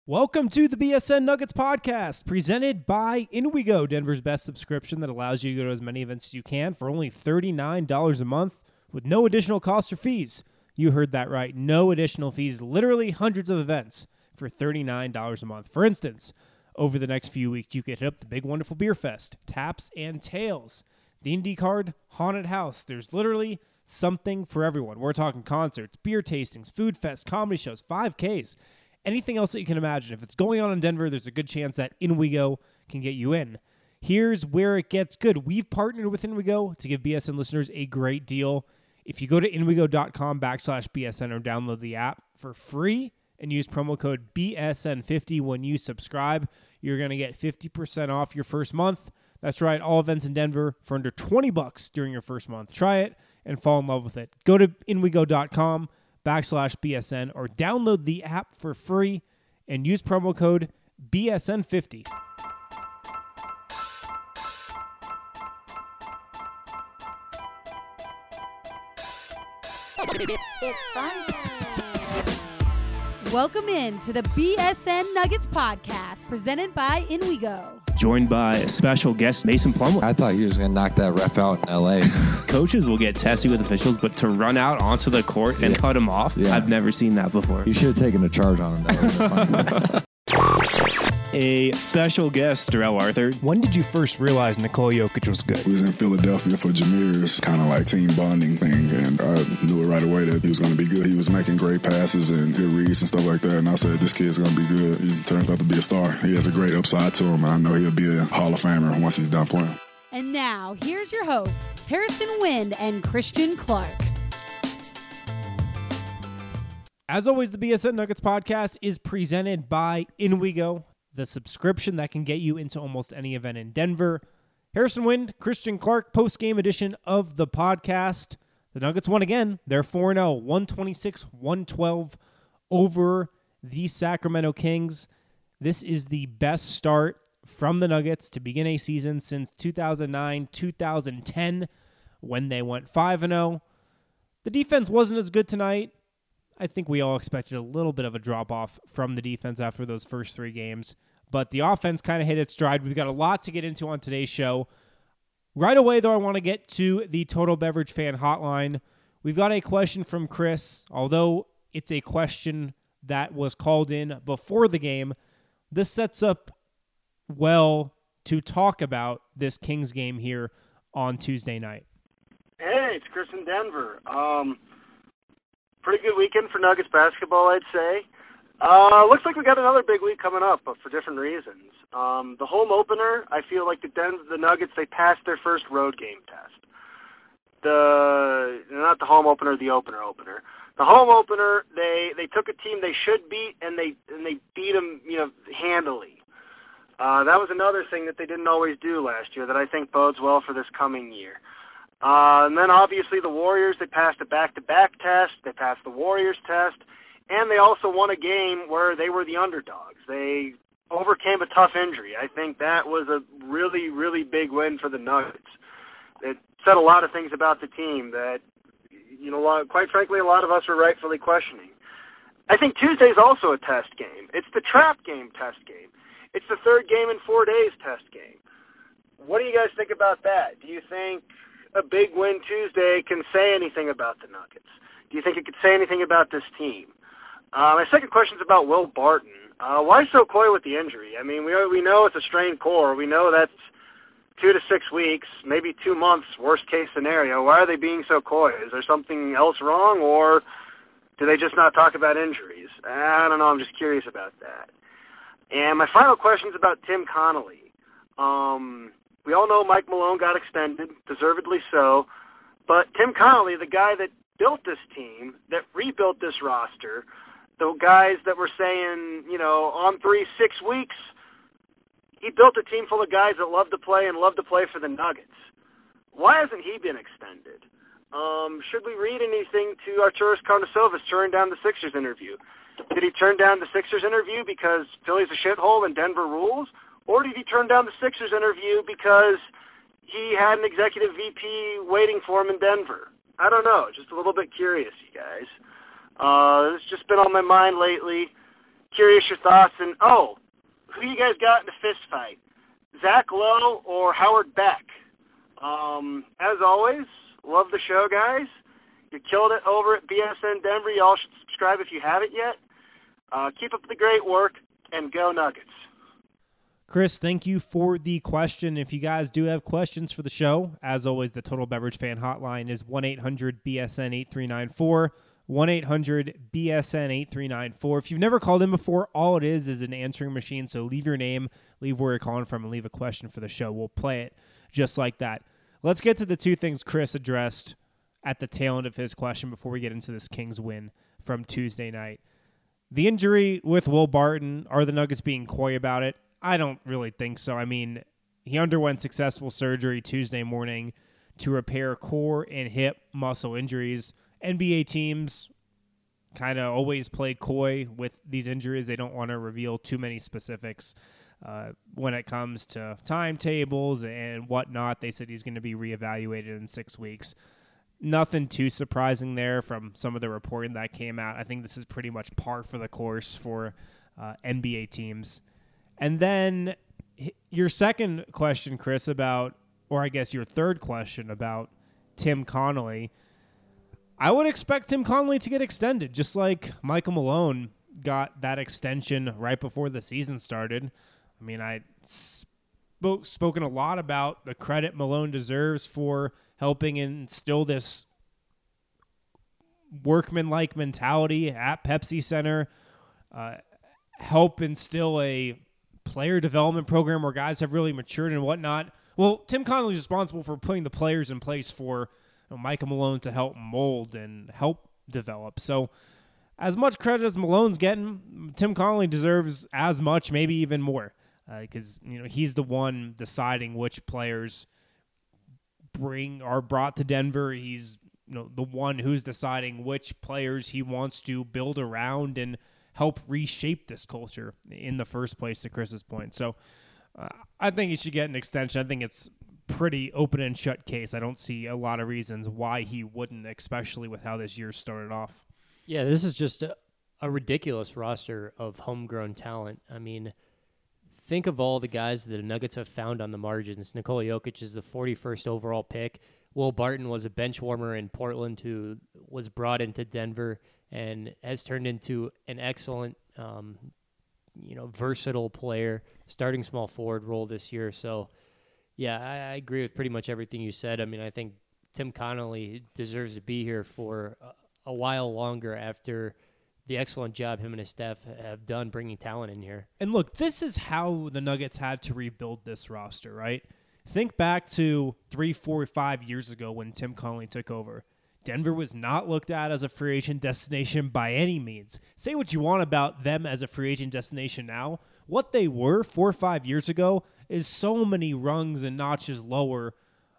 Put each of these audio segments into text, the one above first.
Welcome to the BSN Nuggets podcast, presented by InWeGo, Denver's best subscription that allows you to go to as many events as you can for only $39 a month with no additional costs or fees. You heard that right. No additional fees, literally hundreds of events for $39 a month. For instance, over the next few weeks, you can hit up the Big Wonderful Beer Fest, Taps and Tales, the Indie Card, Haunted House. There's literally something for everyone. We're talking concerts, beer tastings, food fests, comedy shows, 5Ks, anything else that you can imagine. If it's going on in Denver, there's a good chance that InWeGo can get you in. Here's where it gets good. We've partnered with InWeGo to give BSN listeners a great deal. If you go to inwego.com/BSN or download the app for free and use promo code BSN50 when you subscribe, you're going to get 50% off your first month. That's right, all events in Denver for under $20 during your first month. Try it and fall in love with it. Go to inwego.com/BSN or download the app for free and use promo code BSN50. It's fun time. Welcome in to the BSN Nuggets podcast presented by InWeGo. Joined by a special guest, Mason Plumlee. I thought he was going to knock that ref out in L.A. Coaches will get testy with officials, but to run out onto the court and cut him off, I've never seen that before. You should have taken a charge on him. That would have been fun. A special guest, Darrell Arthur. When did you first realize Nikola Jokic was good? We was in Philadelphia for Jameer's kind of like team bonding thing, and I knew it right away that he was going to be good. He was making great passes and good reads and stuff like that, and I said, this kid's going to be good. He turned out to be a star. He has a great upside to him, and I know he'll be a Hall of Famer once he's done playing. And now, here's your hosts, Harrison Wind and Christian Clark. As always, the BSN Nuggets podcast is presented by InWeGo, the subscription that can get you into almost any event in Denver. Harrison Wind, Christian Clark, post-game edition of the podcast. The Nuggets won again. They're 4-0, 126-112 over the Sacramento Kings. This is the best start from the Nuggets to begin a season since 2009-2010 when they went 5-0. The defense wasn't as good tonight. I think we all expected a little bit of a drop-off from the defense after those first three games, but the offense kind of hit its stride. We've got a lot to get into on today's show. Right away, though, I want to get to the Total Beverage Fan Hotline. We've got a question from Chris. Although it's a question that was called in before the game, this sets up well to talk about this Kings game here on Tuesday night. Hey, it's Chris in Denver. Pretty good weekend for Nuggets basketball, I'd say. Looks like we got another big week coming up, but for different reasons. The home opener, I feel like the Nuggets, they passed their first road game test. Not the home opener, the opener. The home opener, they took a team they should beat, and they beat them, handily. That was another thing that they didn't always do last year that I think bodes well for this coming year. And then obviously the Warriors, they passed a back-to-back test, they passed the Warriors test, and they also won a game where they were the underdogs. They overcame a tough injury. I think that was a really, really big win for the Nuggets. It said a lot of things about the team that, quite frankly, a lot of us were rightfully questioning. I think Tuesday's also a test game. It's the trap game test game. It's the third game in 4 days test game. What do you guys think about that? Do you think a big win Tuesday can say anything about the Nuggets? Do you think it could say anything about this team? My second question is about Will Barton. Why so coy with the injury? I mean, we know it's a strained core. We know that's 2 to 6 weeks, maybe 2 months, worst case scenario. Why are they being so coy? Is there something else wrong, or do they just not talk about injuries? I don't know. I'm just curious about that. And my final question is about Tim Connolly. We all know Mike Malone got extended, deservedly so, but Tim Connolly, the guy that built this team, that rebuilt this roster, the guys that were saying, on 3-6 weeks, he built a team full of guys that love to play and love to play for the Nuggets. Why hasn't he been extended? Should we read anything to Arturas Karnisovas turning down the Sixers interview? Did he turn down the Sixers interview because Philly's a shithole and Denver rules? Or did he turn down the Sixers interview because he had an executive VP waiting for him in Denver? I don't know. Just a little bit curious, you guys. It's just been on my mind lately. curious your thoughts. And, who you guys got in a fist fight? Zach Lowe or Howard Beck? As always, love the show, guys. You killed it over at BSN Denver. Y'all should subscribe if you haven't yet. Keep up the great work, and go Nuggets. Chris, thank you for the question. If you guys do have questions for the show, as always, the Total Beverage Fan Hotline is 1-800-BSN-8394, 1-800-BSN-8394. If you've never called in before, all it is an answering machine, so leave your name, leave where you're calling from, and leave a question for the show. We'll play it just like that. Let's get to the two things Chris addressed at the tail end of his question before we get into this Kings win from Tuesday night. The injury with Will Barton, are the Nuggets being coy about it? I don't really think so. I mean, he underwent successful surgery Tuesday morning to repair core and hip muscle injuries. NBA teams kind of always play coy with these injuries. They don't want to reveal too many specifics when it comes to timetables and whatnot. They said he's going to be reevaluated in 6 weeks. Nothing too surprising there from some of the reporting that came out. I think this is pretty much par for the course for NBA teams. And then your second question, Chris, about, or I guess your third question about Tim Connolly. I would expect Tim Connolly to get extended, just like Michael Malone got that extension right before the season started. I mean, I spoken a lot about the credit Malone deserves for helping instill this workman-like mentality at Pepsi Center, help instill a player development program where guys have really matured and whatnot. Well, Tim Connolly is responsible for putting the players in place for Michael Malone to help mold and help develop. So as much credit as Malone's getting, Tim Connolly deserves as much, maybe even more, because he's the one deciding which players are brought to Denver. He's the one who's deciding which players he wants to build around and help reshape this culture in the first place, to Chris's point. So I think he should get an extension. I think it's pretty open and shut case. I don't see a lot of reasons why he wouldn't, especially with how this year started off. Yeah, this is just a ridiculous roster of homegrown talent. I mean, think of all the guys that the Nuggets have found on the margins. Nikola Jokic is the 41st overall pick. Will Barton was a bench warmer in Portland who was brought into Denver and has turned into an excellent, versatile player, starting small forward role this year. So, yeah, I agree with pretty much everything you said. I mean, I think Tim Connolly deserves to be here for a while longer after the excellent job him and his staff have done bringing talent in here. And look, this is how the Nuggets had to rebuild this roster, right? Think back to 3, 4, 5 years ago when Tim Connolly took over. Denver was not looked at as a free agent destination by any means. Say what you want about them as a free agent destination now. What they were 4 or 5 years ago is so many rungs and notches lower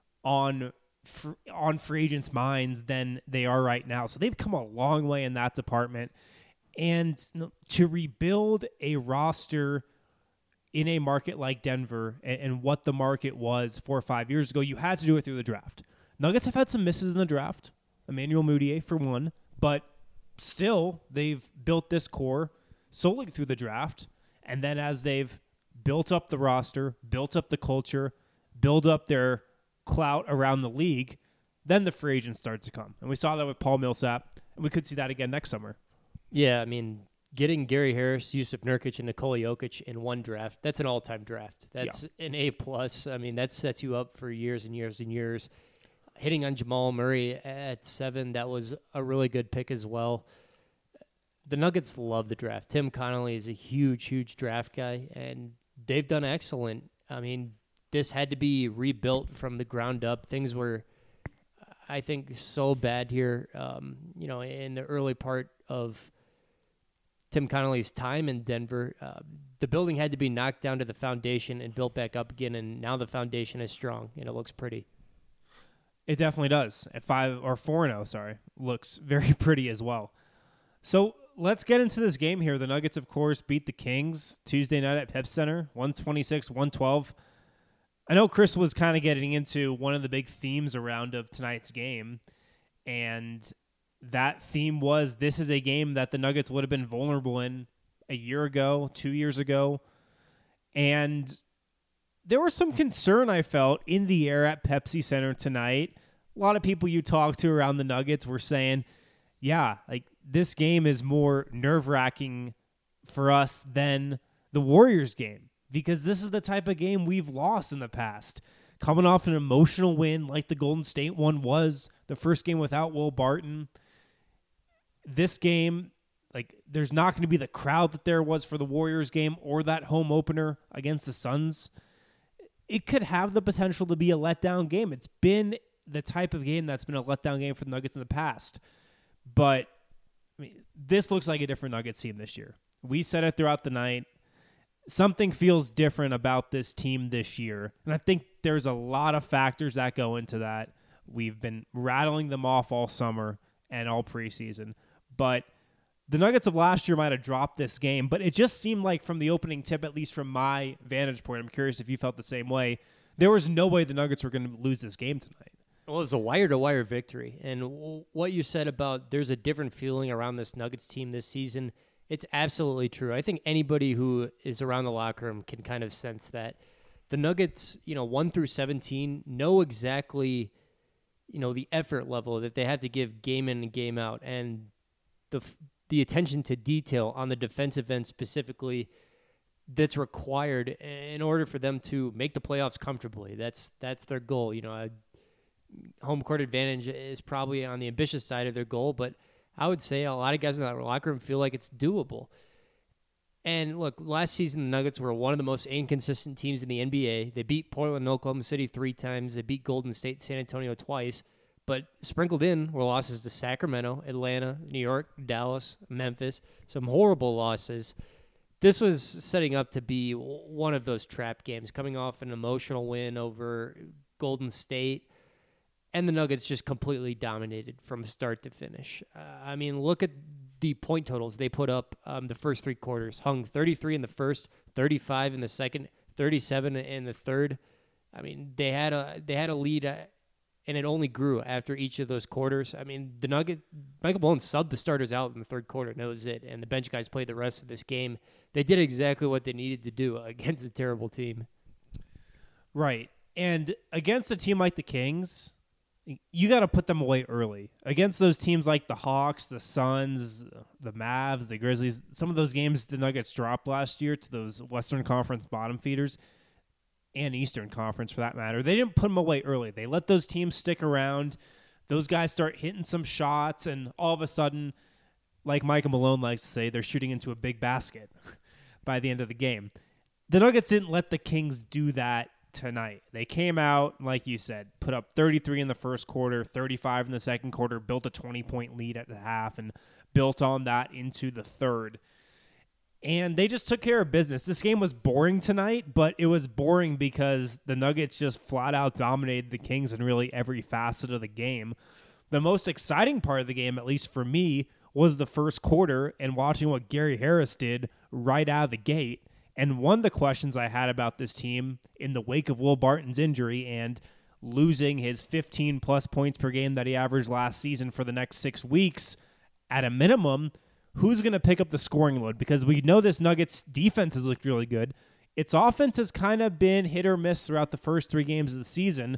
on free agents' minds than they are right now. So they've come a long way in that department. And to rebuild a roster in a market like Denver and what the market was 4 or 5 years ago, you had to do it through the draft. Nuggets have had some misses in the draft. Emmanuel Mudiay for one, but still they've built this core solely through the draft. And then as they've built up the roster, built up the culture, build up their clout around the league, then the free agents start to come. And we saw that with Paul Millsap, and we could see that again next summer. Yeah, I mean, getting Gary Harris, Yusuf Nurkic, and Nikola Jokic in one draft, that's an all-time draft. That's an A+. I mean, that sets you up for years and years and years. Hitting on Jamal Murray at 7, that was a really good pick as well. The Nuggets love the draft. Tim Connolly is a huge, huge draft guy, and they've done excellent. I mean, this had to be rebuilt from the ground up. Things were, I think, so bad here, in the early part of Tim Connolly's time in Denver. The building had to be knocked down to the foundation and built back up again, and now the foundation is strong, and it looks pretty. It definitely does. At 4-0, looks very pretty as well. So let's get into this game here. The Nuggets, of course, beat the Kings Tuesday night at Pep Center, 126-112. I know Chris was kind of getting into one of the big themes around of tonight's game, and that theme was this is a game that the Nuggets would have been vulnerable in a year ago, 2 years ago. And there was some concern I felt in the air at Pepsi Center tonight. A lot of people you talk to around the Nuggets were saying, yeah, like this game is more nerve-wracking for us than the Warriors game, because this is the type of game we've lost in the past. Coming off an emotional win like the Golden State one was, the first game without Will Barton. This game, like, there's not going to be the crowd that there was for the Warriors game or that home opener against the Suns. It could have the potential to be a letdown game. It's been the type of game that's been a letdown game for the Nuggets in the past. But I mean, this looks like a different Nuggets team this year. We said it throughout the night. Something feels different about this team this year. And I think there's a lot of factors that go into that. We've been rattling them off all summer and all preseason. But the Nuggets of last year might have dropped this game, but it just seemed like from the opening tip, at least from my vantage point, I'm curious if you felt the same way, there was no way the Nuggets were going to lose this game tonight. Well, it was a wire-to-wire victory. And what you said about there's a different feeling around this Nuggets team this season, it's absolutely true. I think anybody who is around the locker room can kind of sense that. The Nuggets, 1 through 17, know exactly, the effort level that they have to give game in and game out. And the attention to detail on the defensive end specifically that's required in order for them to make the playoffs comfortably. That's their goal. Home court advantage is probably on the ambitious side of their goal, but I would say a lot of guys in that locker room feel like it's doable. And look, last season the Nuggets were one of the most inconsistent teams in the NBA. They beat Portland and Oklahoma City 3 times. They beat Golden State, San Antonio twice. But sprinkled in were losses to Sacramento, Atlanta, New York, Dallas, Memphis. Some horrible losses. This was setting up to be one of those trap games, coming off an emotional win over Golden State. And the Nuggets just completely dominated from start to finish. Look at the point totals they put up the first 3 quarters. Hung 33 in the first, 35 in the second, 37 in the third. They had a lead, and it only grew after each of those quarters. The Nuggets, Michael Malone subbed the starters out in the third quarter, and that was it. And the bench guys played the rest of this game. They did exactly what they needed to do against a terrible team. Right. And against a team like the Kings, you got to put them away early. Against those teams like the Hawks, the Suns, the Mavs, the Grizzlies, some of those games the Nuggets dropped last year to those Western Conference bottom feeders and Eastern Conference for that matter. They didn't put them away early. They let those teams stick around. Those guys start hitting some shots, and all of a sudden, like Michael Malone likes to say, they're shooting into a big basket by the end of the game. The Nuggets didn't let the Kings do that tonight. They came out, like you said, put up 33 in the first quarter, 35 in the second quarter, built a 20-point lead at the half, and built on that into the third. And they just took care of business. This game was boring tonight, but it was boring because the Nuggets just flat out dominated the Kings in really every facet of the game. The most exciting part of the game, at least for me, was the first quarter and watching what Gary Harris did right out of the gate. And one of the questions I had about this team in the wake of Will Barton's injury and losing his 15-plus points per game that he averaged last season for the next 6 weeks, at a minimum, who's going to pick up the scoring load? Because we know this Nuggets defense has looked really good. Its offense has kind of been hit or miss throughout the first 3 games of the season.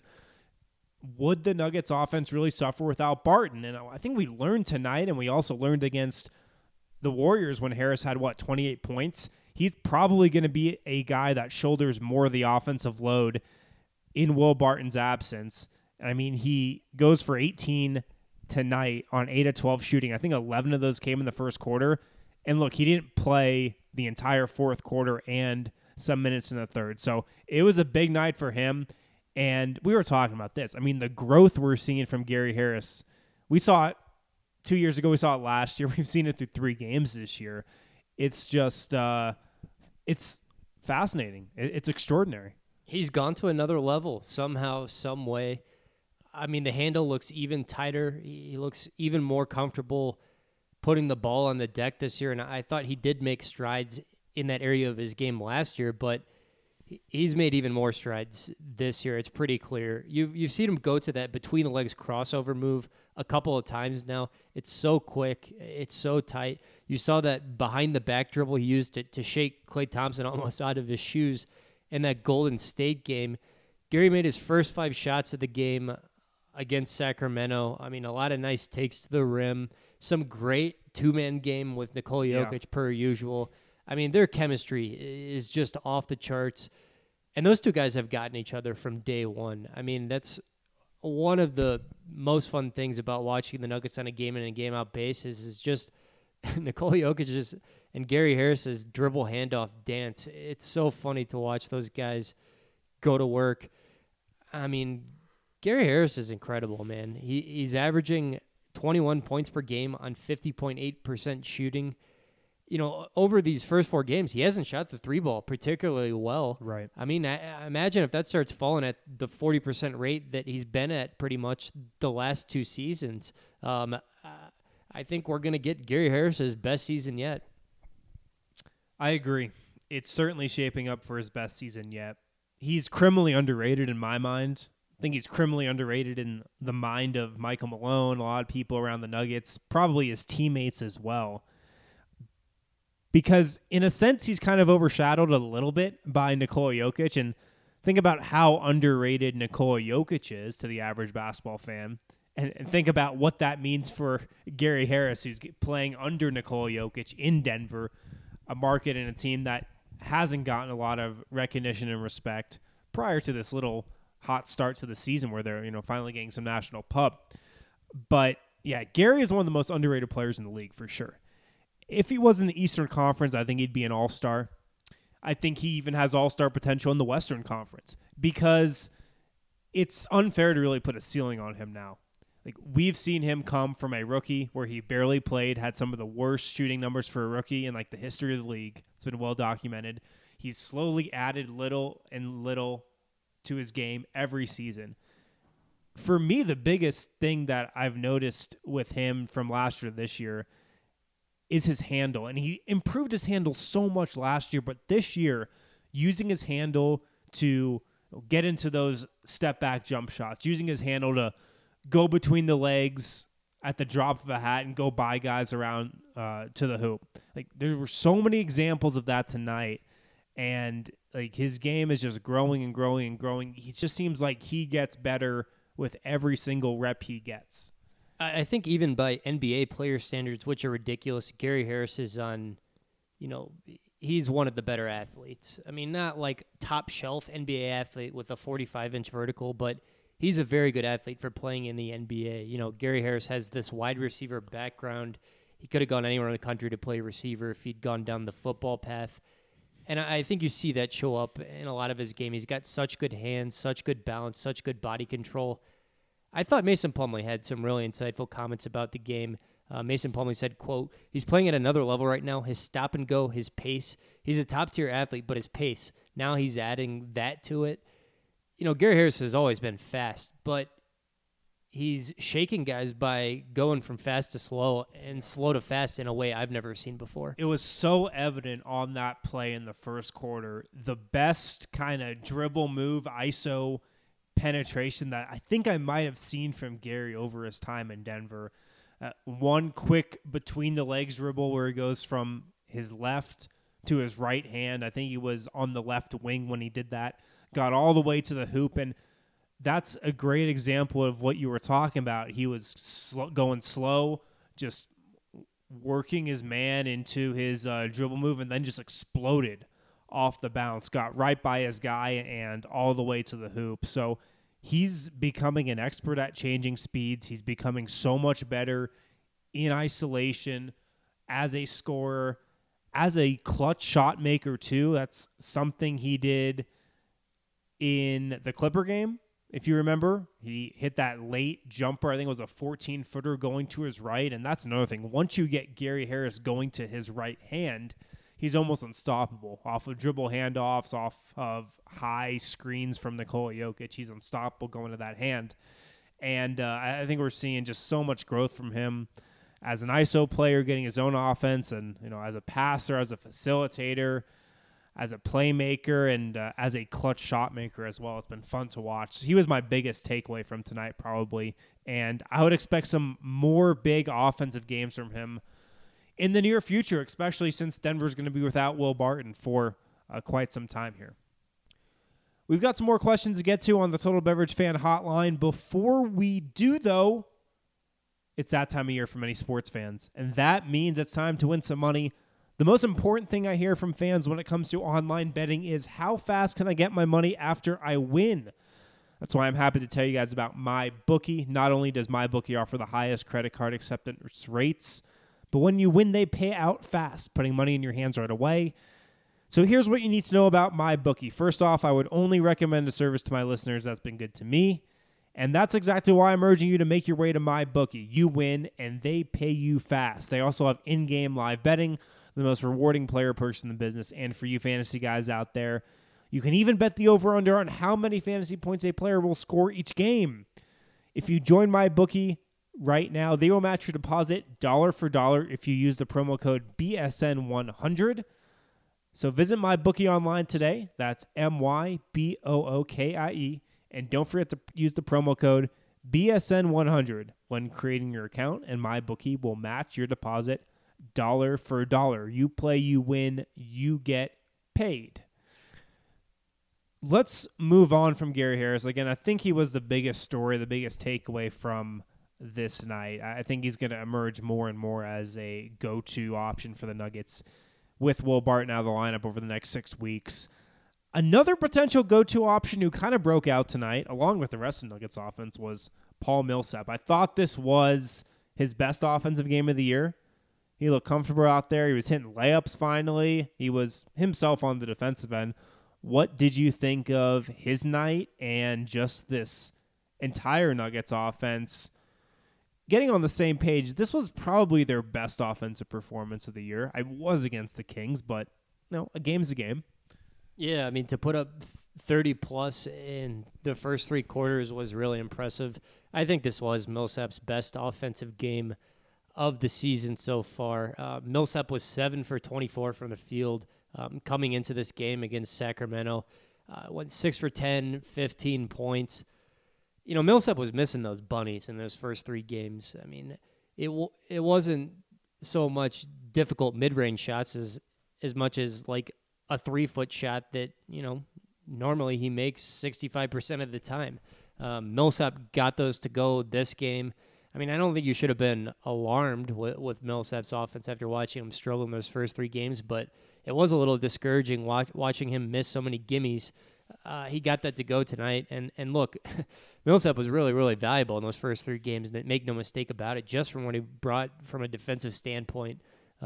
Would the Nuggets offense really suffer without Barton? And I think we learned tonight, and we also learned against the Warriors when Harris had, 28 points? He's probably going to be a guy that shoulders more of the offensive load in Will Barton's absence. He goes for 18 tonight on 8 of 12 shooting. I think 11 of those came in the first quarter. And look, he didn't play the entire fourth quarter and some minutes in the third. So it was a big night for him. And we were talking about this. The growth we're seeing from Gary Harris, we saw it 2 years ago. We saw it last year. We've seen it through 3 games this year. It's just, it's fascinating. It's extraordinary. He's gone to another level somehow, some way. The handle looks even tighter. He looks even more comfortable putting the ball on the deck this year. And I thought he did make strides in that area of his game last year, but he's made even more strides this year. It's pretty clear. You've seen him go to that between the legs crossover move a couple of times now. It's so quick. It's so tight. You saw that behind the back dribble he used to shake Klay Thompson almost out of his shoes in that Golden State game. Gary made his first 5 shots of the game against Sacramento. I mean, a lot of nice takes to the rim. Some great two-man game with Nikola Jokic per usual. I mean, their chemistry is just off the charts. And those two guys have gotten each other from day one. I mean, that's one of the most fun things about watching the Nuggets on a game-in and game-out basis is just Nikola Jokic and Gary Harris's dribble handoff dance. It's so funny to watch those guys go to work. I mean, Gary Harris is incredible, man. He's averaging 21 points per game on 50.8% shooting. You know, over these first 4 games, he hasn't shot the 3-ball particularly well. Right. I mean, I imagine if that starts falling at the 40% rate that he's been at pretty much the last 2 seasons, I think we're going to get Gary Harris's best season yet. I agree. It's certainly shaping up for his best season yet. He's criminally underrated in my mind. I think he's criminally underrated in the mind of Michael Malone, a lot of people around the Nuggets, probably his teammates as well. Because in a sense, he's kind of overshadowed a little bit by Nikola Jokic. And think about how underrated Nikola Jokic is to the average basketball fan. And think about what that means for Gary Harris, who's playing under Nikola Jokic in Denver, a market and a team that hasn't gotten a lot of recognition and respect prior to this little hot start to the season where they're, finally getting some national pub. But yeah, Gary is one of the most underrated players in the league for sure. If he was in the Eastern Conference, I think he'd be an all-star. I think he even has all-star potential in the Western Conference because it's unfair to really put a ceiling on him now. Like, we've seen him come from a rookie where he barely played, had some of the worst shooting numbers for a rookie in the history of the league. It's been well documented. He's slowly added little and little to his game every season. For me, the biggest thing that I've noticed with him from last year to this year is his handle. And he improved his handle so much last year, but this year, using his handle to get into those step-back jump shots, using his handle to go between the legs at the drop of a hat and go by guys around to the hoop. There were so many examples of that tonight, and his game is just growing and growing and growing. He just seems like he gets better with every single rep he gets. I think even by NBA player standards, which are ridiculous, Gary Harris is on, he's one of the better athletes. I mean, not like top shelf NBA athlete with a 45-inch vertical, but he's a very good athlete for playing in the NBA. Gary Harris has this wide receiver background. He could have gone anywhere in the country to play receiver if he'd gone down the football path. And I think you see that show up in a lot of his game. He's got such good hands, such good balance, such good body control. I thought Mason Plumlee had some really insightful comments about the game. Mason Plumlee said, quote, "He's playing at another level right now. His stop and go, his pace. He's a top-tier athlete, but his pace, now he's adding that to it." Gary Harris has always been fast, but he's shaking guys by going from fast to slow and slow to fast in a way I've never seen before. It was so evident on that play in the first quarter. The best kind of dribble move, ISO penetration that I think I might have seen from Gary over his time in Denver. One quick between the legs dribble where he goes from his left to his right hand. I think he was on the left wing when he did that. Got all the way to the hoop, and that's a great example of what you were talking about. He was going slow, just working his man into his dribble move, and then just exploded off the bounce, got right by his guy, and all the way to the hoop. So he's becoming an expert at changing speeds. He's becoming so much better in isolation as a scorer, as a clutch shot maker too. That's something he did in the Clipper game. If you remember, he hit that late jumper. I think it was a 14-footer going to his right, and that's another thing. Once you get Gary Harris going to his right hand, he's almost unstoppable. Off of dribble handoffs, off of high screens from Nikola Jokic, he's unstoppable going to that hand. And I think we're seeing just so much growth from him as an ISO player, getting his own offense, and as a passer, as a facilitator. as a playmaker and as a clutch shot maker as well. It's been fun to watch. He was my biggest takeaway from tonight probably, and I would expect some more big offensive games from him in the near future, especially since Denver's going to be without Will Barton for quite some time here. We've got some more questions to get to on the Total Beverage Fan Hotline. Before we do, though, it's that time of year for many sports fans, and that means it's time to win some money. The most important thing I hear from fans when it comes to online betting is how fast can I get my money after I win? That's why I'm happy to tell you guys about MyBookie. Not only does MyBookie offer the highest credit card acceptance rates, but when you win, they pay out fast, putting money in your hands right away. So here's what you need to know about MyBookie. First off, I would only recommend a service to my listeners that's been good to me. And that's exactly why I'm urging you to make your way to MyBookie. You win, and they pay you fast. They also have in-game live betting, the most rewarding player perks in the business. And for you fantasy guys out there, you can even bet the over-under on how many fantasy points a player will score each game. If you join MyBookie right now, they will match your deposit dollar for dollar if you use the promo code BSN100. So visit MyBookie online today. That's MyBookie. And don't forget to use the promo code BSN100 when creating your account, and MyBookie will match your deposit dollar for dollar. You play, you win, you get paid. Let's move on from Gary Harris. Again, I think he was the biggest story, the biggest takeaway from this night. I think he's going to emerge more and more as a go-to option for the Nuggets with Will Barton out of the lineup over the next 6 weeks. Another potential go-to option who kind of broke out tonight, along with the rest of the Nuggets offense, was Paul Millsap. I thought this was his best offensive game of the year. He looked comfortable out there. He was hitting layups finally. He was himself on the defensive end. What did you think of his night and just this entire Nuggets offense getting on the same page? This was probably their best offensive performance of the year. I was against the Kings, but a game's a game. Yeah, I mean, to put up 30-plus in the first three quarters was really impressive. I think this was Millsap's best offensive game of the season so far. Millsap was 7 for 24 from the field coming into this game against Sacramento. Went 6 for 10, 15 points. Millsap was missing those bunnies in those first three games. I mean, it wasn't so much difficult mid-range shots as much as like a 3-foot shot that, normally he makes 65% of the time. Millsap got those to go this game. I mean, I don't think you should have been alarmed with Millsap's offense after watching him struggle in those first three games, but it was a little discouraging watching him miss so many gimmies. He got that to go tonight, and look, Millsap was really, really valuable in those first three games, and make no mistake about it, just from what he brought from a defensive standpoint.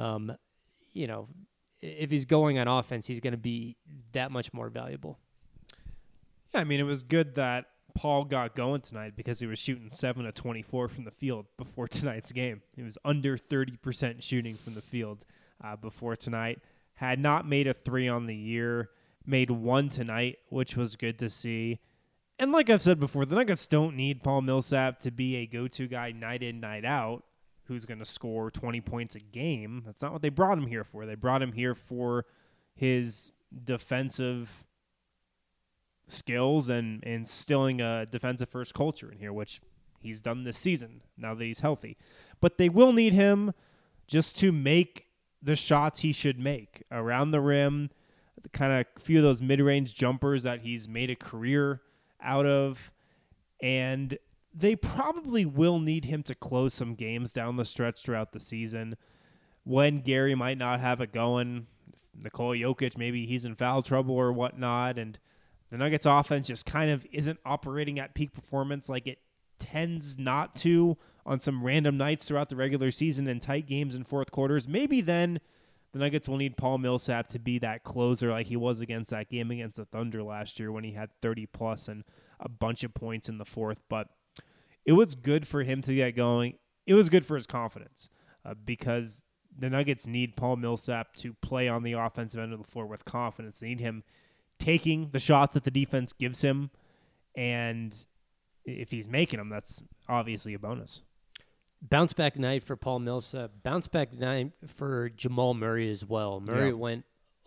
If he's going on offense, he's going to be that much more valuable. Yeah, I mean, it was good that Paul got going tonight because he was shooting 7 of 24 from the field before tonight's game. He was under 30% shooting from the field before tonight. Had not made a 3 on the year, made 1 tonight, which was good to see. And like I've said before, the Nuggets don't need Paul Millsap to be a go-to guy night in, night out, who's going to score 20 points a game. That's not what they brought him here for. They brought him here for his defensive skills and instilling a defensive-first culture in here, which he's done this season now that he's healthy. But they will need him just to make the shots he should make around the rim, kind of a few of those mid-range jumpers that he's made a career out of, and they probably will need him to close some games down the stretch throughout the season when Gary might not have it going. Nikola Jokic, maybe he's in foul trouble or whatnot, and the Nuggets offense just kind of isn't operating at peak performance like it tends not to on some random nights throughout the regular season and tight games in fourth quarters. Maybe then the Nuggets will need Paul Millsap to be that closer like he was against that game against the Thunder last year when he had 30-plus and a bunch of points in the fourth. But it was good for him to get going. It was good for his confidence because the Nuggets need Paul Millsap to play on the offensive end of the floor with confidence. They need him taking the shots that the defense gives him, and if he's making them, that's obviously a bonus. Bounce back night for Paul Millsap. Bounce back night for Jamal Murray as well. Murray went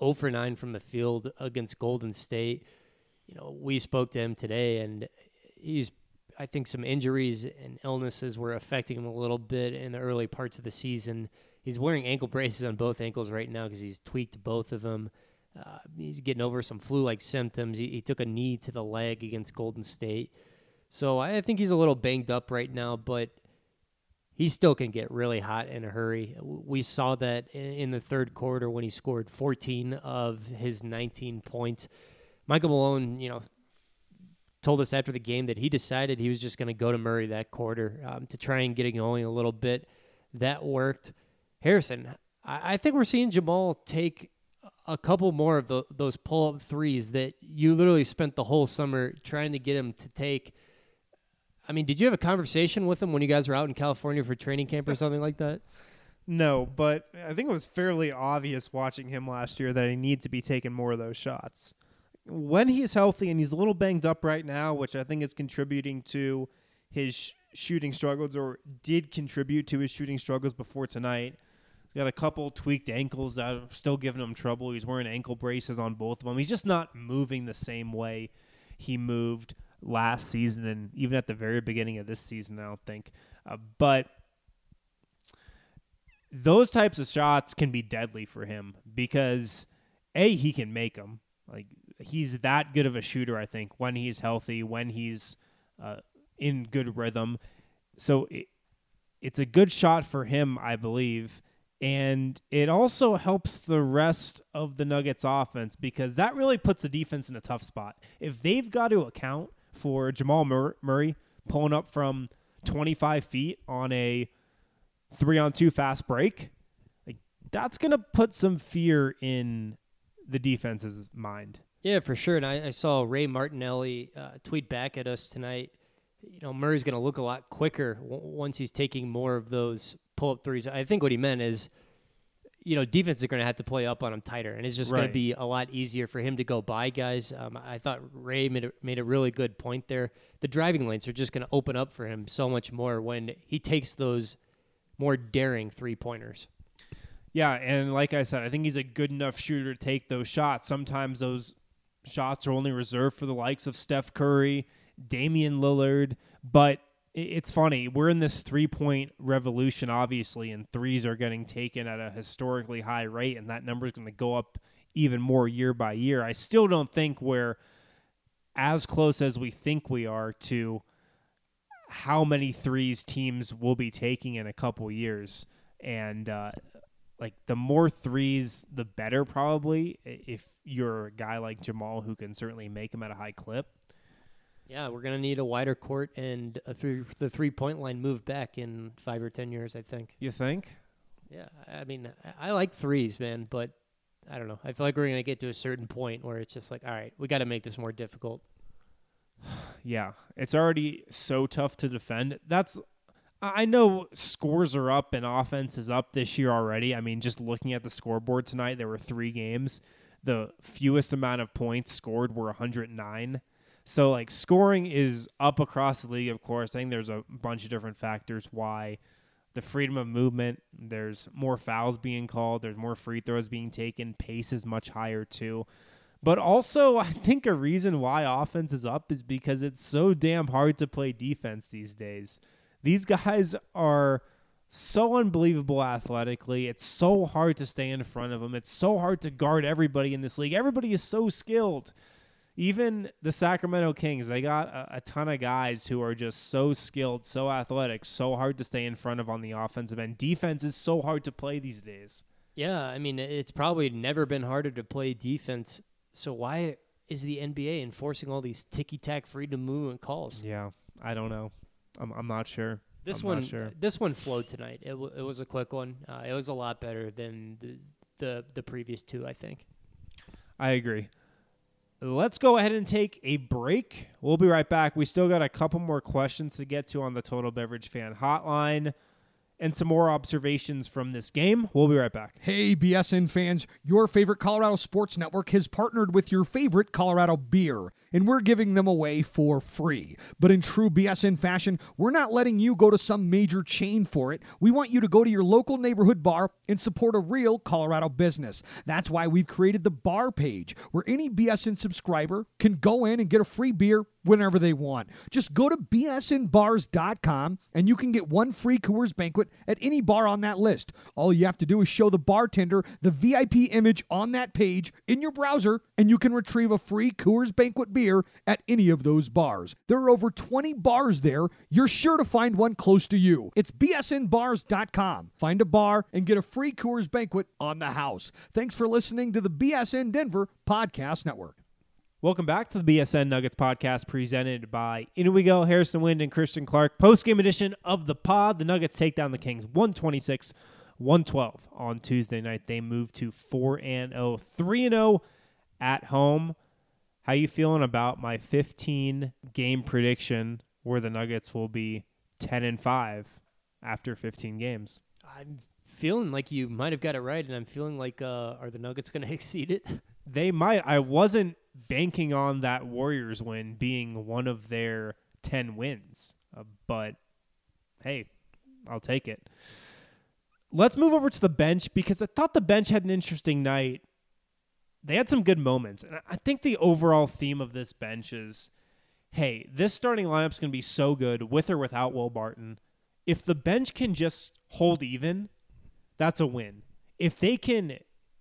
0 for 9 from the field against Golden State. We spoke to him today, and I think some injuries and illnesses were affecting him a little bit in the early parts of the season. He's wearing ankle braces on both ankles right now because he's tweaked both of them. He's getting over some flu-like symptoms. He took a knee to the leg against Golden State. So I think he's a little banged up right now, but he still can get really hot in a hurry. We saw that in the third quarter when he scored 14 of his 19 points. Michael Malone, told us after the game that he decided he was just going to go to Murray that quarter to try and get it going a little bit. That worked. Harrison, I think we're seeing Jamal take a couple more of those pull-up threes that you literally spent the whole summer trying to get him to take. I mean, did you have a conversation with him when you guys were out in California for training camp or something like that? No, but I think it was fairly obvious watching him last year that he needs to be taking more of those shots. When he's healthy, and he's a little banged up right now, which I think is contributing to his shooting struggles, or did contribute to his shooting struggles before tonight. He's got a couple tweaked ankles that are still giving him trouble. He's wearing ankle braces on both of them. He's just not moving the same way he moved last season and even at the very beginning of this season, I don't think. But those types of shots can be deadly for him because, A, he can make them. Like, he's that good of a shooter, I think, when he's healthy, when he's in good rhythm. So it's a good shot for him, I believe. And it also helps the rest of the Nuggets offense because that really puts the defense in a tough spot. If they've got to account for Jamal Murray pulling up from 25 feet on a 3-on-2 fast break, like, that's going to put some fear in the defense's mind. Yeah, for sure. And I saw Ray Martinelli tweet back at us tonight. Murray's going to look a lot quicker once he's taking more of those pull-up threes. I think what he meant is, defenses are going to have to play up on him tighter, and it's just going to be a lot easier for him to go by guys. I thought Ray made a really good point there. The driving lanes are just going to open up for him so much more when he takes those more daring three-pointers. Yeah, and like I said, I think he's a good enough shooter to take those shots. Sometimes those shots are only reserved for the likes of Steph Curry, Damian Lillard, but it's funny. We're in this three-point revolution, obviously, and threes are getting taken at a historically high rate, and that number is going to go up even more year by year. I still don't think we're as close as we think we are to how many threes teams will be taking in a couple years. And, the more threes, the better probably, if you're a guy like Jamal who can certainly make them at a high clip. Yeah, we're going to need a wider court and the three-point line moved back in 5 or 10 years, I think. You think? Yeah, I mean, I like threes, man, but I don't know. I feel like we're going to get to a certain point where it's just like, all right, we got to make this more difficult. Yeah, it's already so tough to defend. I know scores are up and offense is up this year already. I mean, just looking at the scoreboard tonight, there were 3 games. The fewest amount of points scored were 109. So, scoring is up across the league, of course. I think there's a bunch of different factors why. The freedom of movement, there's more fouls being called, there's more free throws being taken, pace is much higher too. But also, I think a reason why offense is up is because it's so damn hard to play defense these days. These guys are so unbelievable athletically. It's so hard to stay in front of them. It's so hard to guard everybody in this league. Everybody is so skilled. Even the Sacramento Kings, they got a ton of guys who are just so skilled, so athletic, so hard to stay in front of on the offensive end. Defense is so hard to play these days. Yeah, I mean, it's probably never been harder to play defense. So why is the NBA enforcing all these ticky-tack freedom movement calls? Yeah, I don't know. I'm not sure. This one flowed tonight. It was a quick one. It was a lot better than the previous 2, I think. I agree. Let's go ahead and take a break. We'll be right back. We still got a couple more questions to get to on the Total Beverage Fan Hotline. and some more observations from this game. We'll be right back. Hey, BSN fans, your favorite Colorado Sports Network has partnered with your favorite Colorado beer, and we're giving them away for free. But in true BSN fashion, we're not letting you go to some major chain for it. We want you to go to your local neighborhood bar and support a real Colorado business. That's why we've created the bar page, where any BSN subscriber can go in and get a free beer whenever they want. Just go to bsnbars.com and you can get one free Coors Banquet at any bar on that list. All you have to do is show the bartender the VIP image on that page in your browser, and you can retrieve a free Coors Banquet beer at any of those bars. There are over 20 bars there. You're sure to find one close to you. It's bsnbars.com. Find a bar and get a free Coors Banquet on the house. Thanks for listening to the BSN Denver Podcast Network. Welcome back to the BSN Nuggets podcast presented by Inigo, Harrison Wind, and Christian Clark. Post-game edition of the pod. The Nuggets take down the Kings 126-112 on Tuesday night. They move to 4-0, 3-0 at home. How you feeling about my 15-game prediction where the Nuggets will be 10-5 after 15 games? I'm feeling like you might have got it right, and I'm feeling like are the Nuggets going to exceed it? They might. I wasn't banking on that Warriors win being one of their 10 wins, but hey, I'll take it. Let's move over to the bench, because I thought the bench had an interesting night. They had some good moments, and I think the overall theme of this bench is, hey, this starting lineup is going to be so good with or without Will Barton. If the bench can just hold even, that's a win. If they can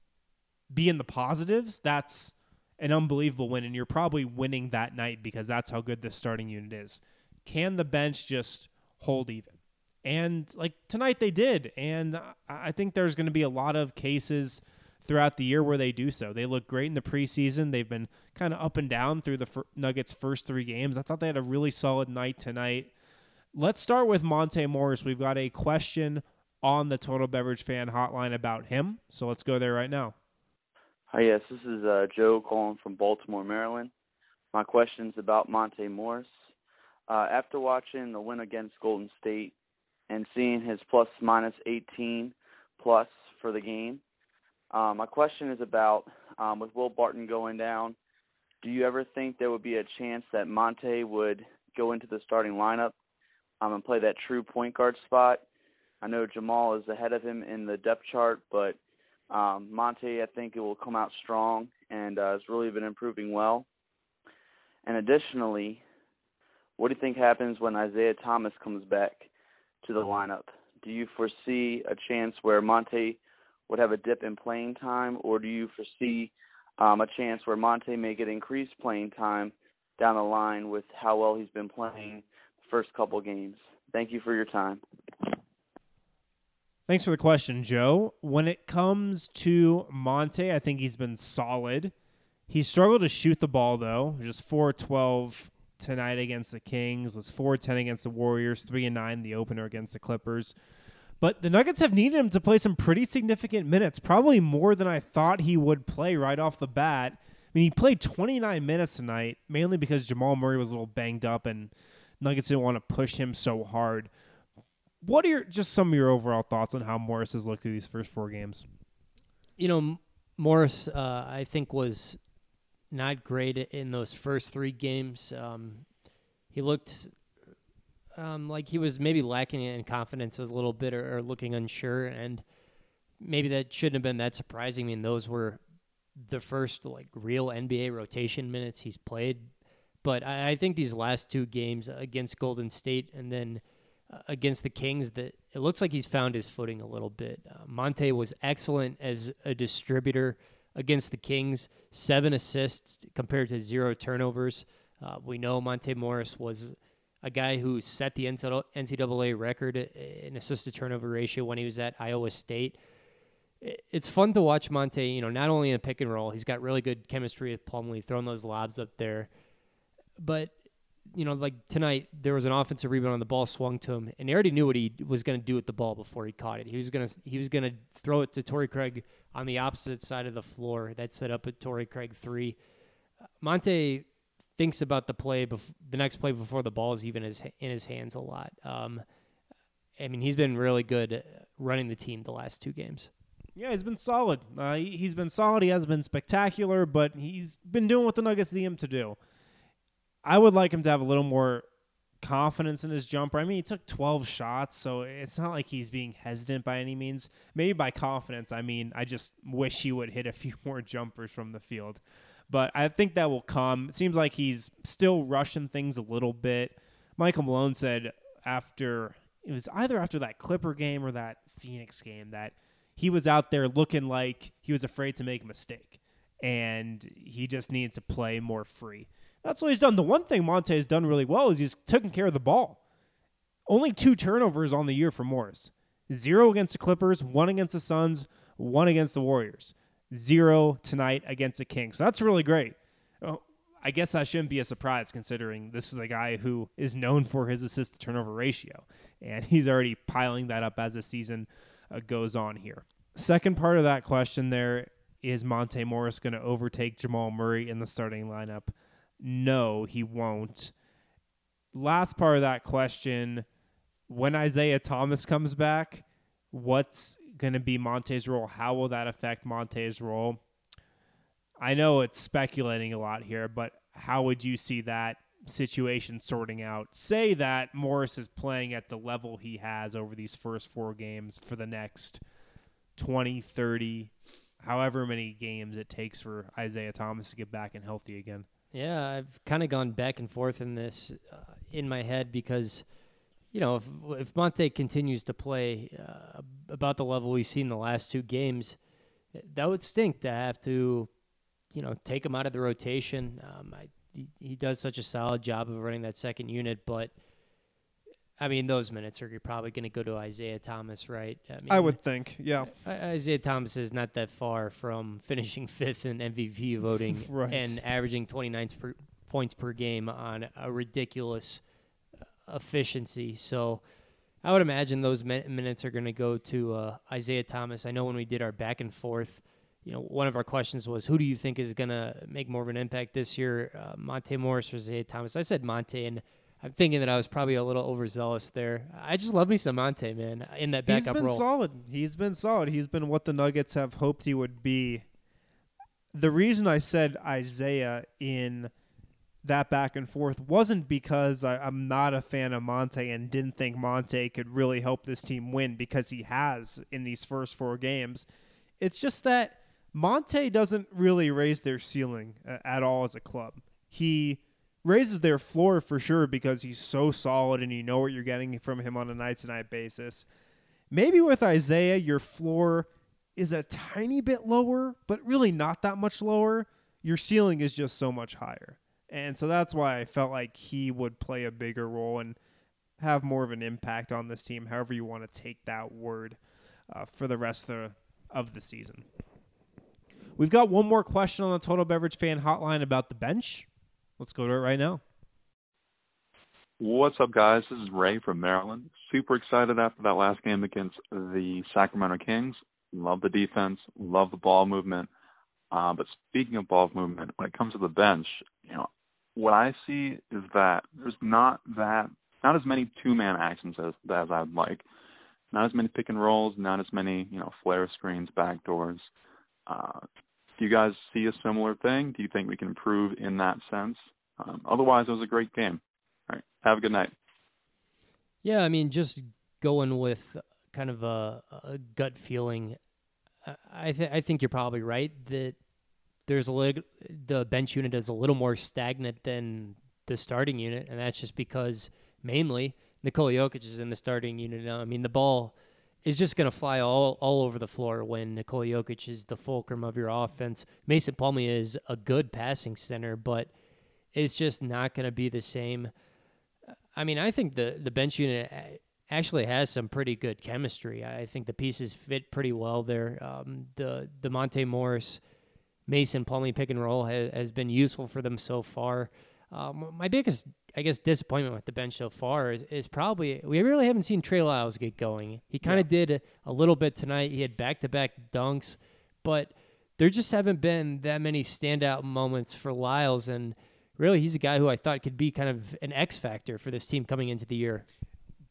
be in the positives, that's an unbelievable win, and you're probably winning that night because that's how good this starting unit is. Can the bench just hold even? And like tonight they did, and I think there's going to be a lot of cases throughout the year where they do so. They look great in the preseason. They've been kind of up and down through the Nuggets' first 3 games. I thought they had a really solid night tonight. Let's start with Monte Morris. We've got a question on the Total Beverage Fan Hotline about him, so let's go there right now. Hi, yes, this is Joe calling from Baltimore, Maryland. My question's about Monte Morris. After watching the win against Golden State and seeing his plus-minus 18 plus for the game, my question is about, with Will Barton going down, do you ever think there would be a chance that Monte would go into the starting lineup and play that true point guard spot? I know Jamal is ahead of him in the depth chart, but Monte, I think it will come out strong and has really been improving well. And additionally, what do you think happens when Isaiah Thomas comes back to the lineup? Do you foresee a chance where Monte would have a dip in playing time, or do you foresee a chance where Monte may get increased playing time down the line with how well he's been playing the first couple games? Thank you for your time. Thanks for the question, Joe. When it comes to Monte, I think he's been solid. He struggled to shoot the ball, though. Just 4-12 tonight against the Kings, was 4-10 against the Warriors, 3-9 the opener against the Clippers. But the Nuggets have needed him to play some pretty significant minutes, probably more than I thought he would play right off the bat. I mean, he played 29 minutes tonight, mainly because Jamal Murray was a little banged up and Nuggets didn't want to push him so hard. What are just some of your overall thoughts on how Morris has looked through these first 4 games? You know, Morris, I think, was not great in those first 3 games. He looked like he was maybe lacking in confidence a little bit or looking unsure, and maybe that shouldn't have been that surprising. I mean, those were the first real NBA rotation minutes he's played. But I think these last 2 games against Golden State and then against the Kings, that it looks like he's found his footing a little bit. Monte was excellent as a distributor against the Kings, 7 assists compared to 0 turnovers. We know Monte Morris was a guy who set the NCAA record in assist-to-turnover ratio when he was at Iowa State. It's fun to watch Monte, not only in the pick and roll, he's got really good chemistry with Plumlee, throwing those lobs up there. But tonight, there was an offensive rebound on the ball swung to him, and he already knew what he was going to do with the ball before he caught it. He was going to throw it to Torrey Craig on the opposite side of the floor. That set up a Torrey Craig 3. Monte thinks about the next play before the ball is even in his hands a lot. I mean, he's been really good running the team the last 2 games. Yeah, he's been solid. He's been solid. He hasn't been spectacular, but he's been doing what the Nuggets need him to do. I would like him to have a little more confidence in his jumper. I mean, he took 12 shots, so it's not like he's being hesitant by any means. Maybe by confidence, I mean, I just wish he would hit a few more jumpers from the field. But I think that will come. It seems like he's still rushing things a little bit. Michael Malone said it was either after that Clipper game or that Phoenix game that he was out there looking like he was afraid to make a mistake, and he just needed to play more free. That's what he's done. The one thing Monte has done really well is he's taken care of the ball. Only 2 turnovers on the year for Morris. 0 against the Clippers, 1 against the Suns, 1 against the Warriors. 0 tonight against the Kings. So that's really great. I guess that shouldn't be a surprise considering this is a guy who is known for his assist-to-turnover ratio, and he's already piling that up as the season goes on here. Second part of that question there, is Monte Morris going to overtake Jamal Murray in the starting lineup? No, he won't. Last part of that question, when Isaiah Thomas comes back, what's going to be Monte's role? How will that affect Monte's role? I know it's speculating a lot here, but how would you see that situation sorting out? Say that Morris is playing at the level he has over these first 4 games for the next 20, 30, however many games it takes for Isaiah Thomas to get back and healthy again. Yeah, I've kind of gone back and forth in this in my head because, you know, if Monte continues to play about the level we've seen the last 2 games, that would stink to have to, you know, take him out of the rotation. He does such a solid job of running that second unit, but I mean, those minutes are probably going to go to Isaiah Thomas, right? I would think, yeah. Isaiah Thomas is not that far from finishing 5th in MVP voting right. and averaging 29 points per game on a ridiculous efficiency. So I would imagine those minutes are going to go to Isaiah Thomas. I know when we did our back and forth, you know, one of our questions was, who do you think is going to make more of an impact this year, Monte Morris or Isaiah Thomas? I said Monte, and I'm thinking that I was probably a little overzealous there. I just love me some Monte, man, in that backup role. He's been solid. He's been what the Nuggets have hoped he would be. The reason I said Isaiah in that back and forth wasn't because I'm not a fan of Monte and didn't think Monte could really help this team win, because he has in these first 4 games. It's just that Monte doesn't really raise their ceiling at all as a club. He raises their floor for sure because he's so solid and you know what you're getting from him on a night-to-night basis. Maybe with Isaiah, your floor is a tiny bit lower, but really not that much lower. Your ceiling is just so much higher. And so that's why I felt like he would play a bigger role and have more of an impact on this team, however you want to take that word, for the rest of the season. We've got one more question on the Total Beverage Fan Hotline about the bench. Let's go to it right now. What's up, guys? This is Ray from Maryland. Super excited after that last game against the Sacramento Kings. Love the defense, love the ball movement. But speaking of ball movement, when it comes to the bench, you know, what I see is that there's not as many 2-man actions as I'd like. Not as many pick and rolls, not as many, you know, flare screens, backdoors. Do you guys see a similar thing? Do you think we can improve in that sense? Otherwise, it was a great game. All right. Have a good night. Yeah, I mean, just going with kind of a gut feeling, I think you're probably right that the bench unit is a little more stagnant than the starting unit, and that's just because mainly Nikola Jokic is in the starting unit now. I mean, the ball is just going to fly all over the floor when Nikola Jokic is the fulcrum of your offense. Mason Plumlee is a good passing center, but it's just not going to be the same. I mean, I think the bench unit actually has some pretty good chemistry. I think the pieces fit pretty well there. The Monte Morris, Mason Plumlee pick and roll has been useful for them so far. My biggest, I guess, disappointment with the bench so far is probably we really haven't seen Trey Lyles get going. He kind of did a little bit tonight. He had back-to-back dunks, but there just haven't been that many standout moments for Lyles, and really he's a guy who I thought could be kind of an X factor for this team coming into the year.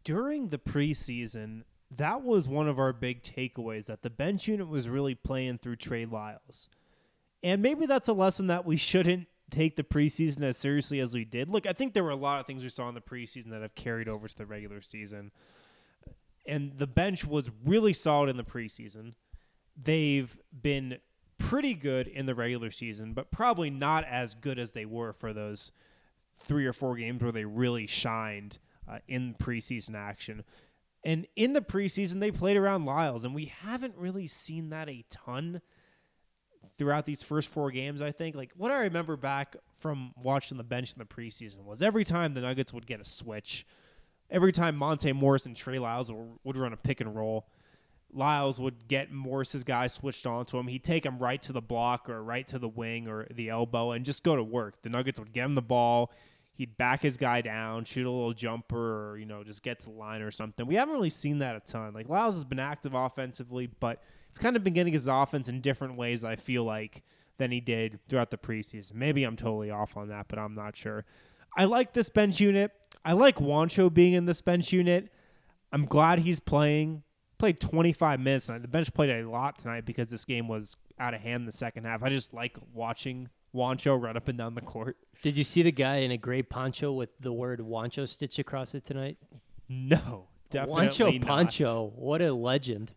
during the preseason, that was one of our big takeaways, that the bench unit was really playing through Trey Lyles. And maybe that's a lesson that we shouldn't take the preseason as seriously as we did. Look, I think there were a lot of things we saw in the preseason that have carried over to the regular season. And the bench was really solid in the preseason. They've been pretty good in the regular season, but probably not as good as they were for those 3 or 4 games where they really shined in preseason action. And in the preseason, they played around Lyles, and we haven't really seen that a ton throughout these first 4 games, I think. Like, what I remember back from watching the bench in the preseason was every time the Nuggets would get a switch, every time Monte Morris and Trey Lyles would run a pick and roll, Lyles would get Morris's guy switched onto him. He'd take him right to the block or right to the wing or the elbow and just go to work. The Nuggets would get him the ball. He'd back his guy down, shoot a little jumper, or, just get to the line or something. We haven't really seen that a ton. Like, Lyles has been active offensively, but it's kind of been getting his offense in different ways, I feel like, than he did throughout the preseason. Maybe I'm totally off on that, but I'm not sure. I like this bench unit. I like Juancho being in this bench unit. I'm glad he's playing. Played 25 minutes tonight. The bench played a lot tonight because this game was out of hand in the second half. I just like watching Juancho run up and down the court. Did you see the guy in a gray poncho with the word Juancho stitched across it tonight? No, definitely Juancho not. Poncho. What a legend.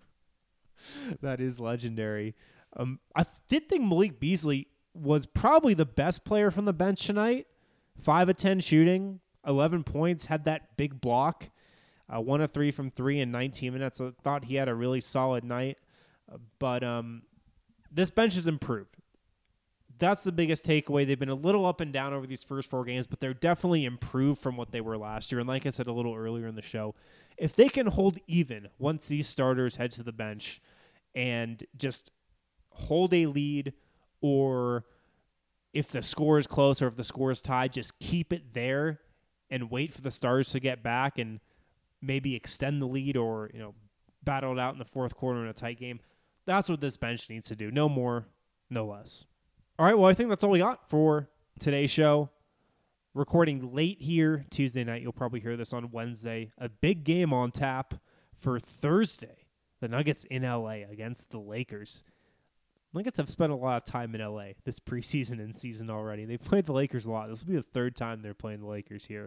That is legendary. I did think Malik Beasley was probably the best player from the bench tonight. 5 of 10 shooting, 11 points, had that big block. 1 of 3 from 3 in 19 minutes. I thought he had a really solid night. But this bench has improved. That's the biggest takeaway. They've been a little up and down over these first 4 games, but they're definitely improved from what they were last year. And like I said a little earlier in the show, if they can hold even once these starters head to the bench and just hold a lead, or if the score is close or if the score is tied, just keep it there and wait for the starters to get back and maybe extend the lead or, battle it out in the fourth quarter in a tight game. That's what this bench needs to do. No more, no less. All right, well, I think that's all we got for today's show. Recording late here Tuesday night. You'll probably hear this on Wednesday. A big game on tap for Thursday. The Nuggets in L.A. against the Lakers. Nuggets have spent a lot of time in L.A. this preseason and season already. They've played the Lakers a lot. This will be the 3rd time they're playing the Lakers here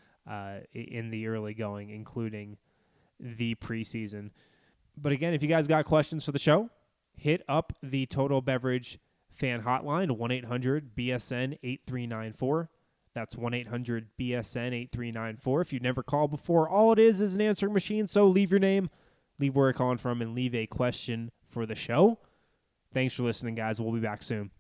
in the early going, including the preseason. But again, if you guys got questions for the show, hit up the Total Beverage fan hotline, 1-800-BSN-8394. That's 1-800-BSN-8394. If you've never called before, all it is an answering machine. So leave your name, leave where you're calling from, and leave a question for the show. Thanks for listening, guys. We'll be back soon.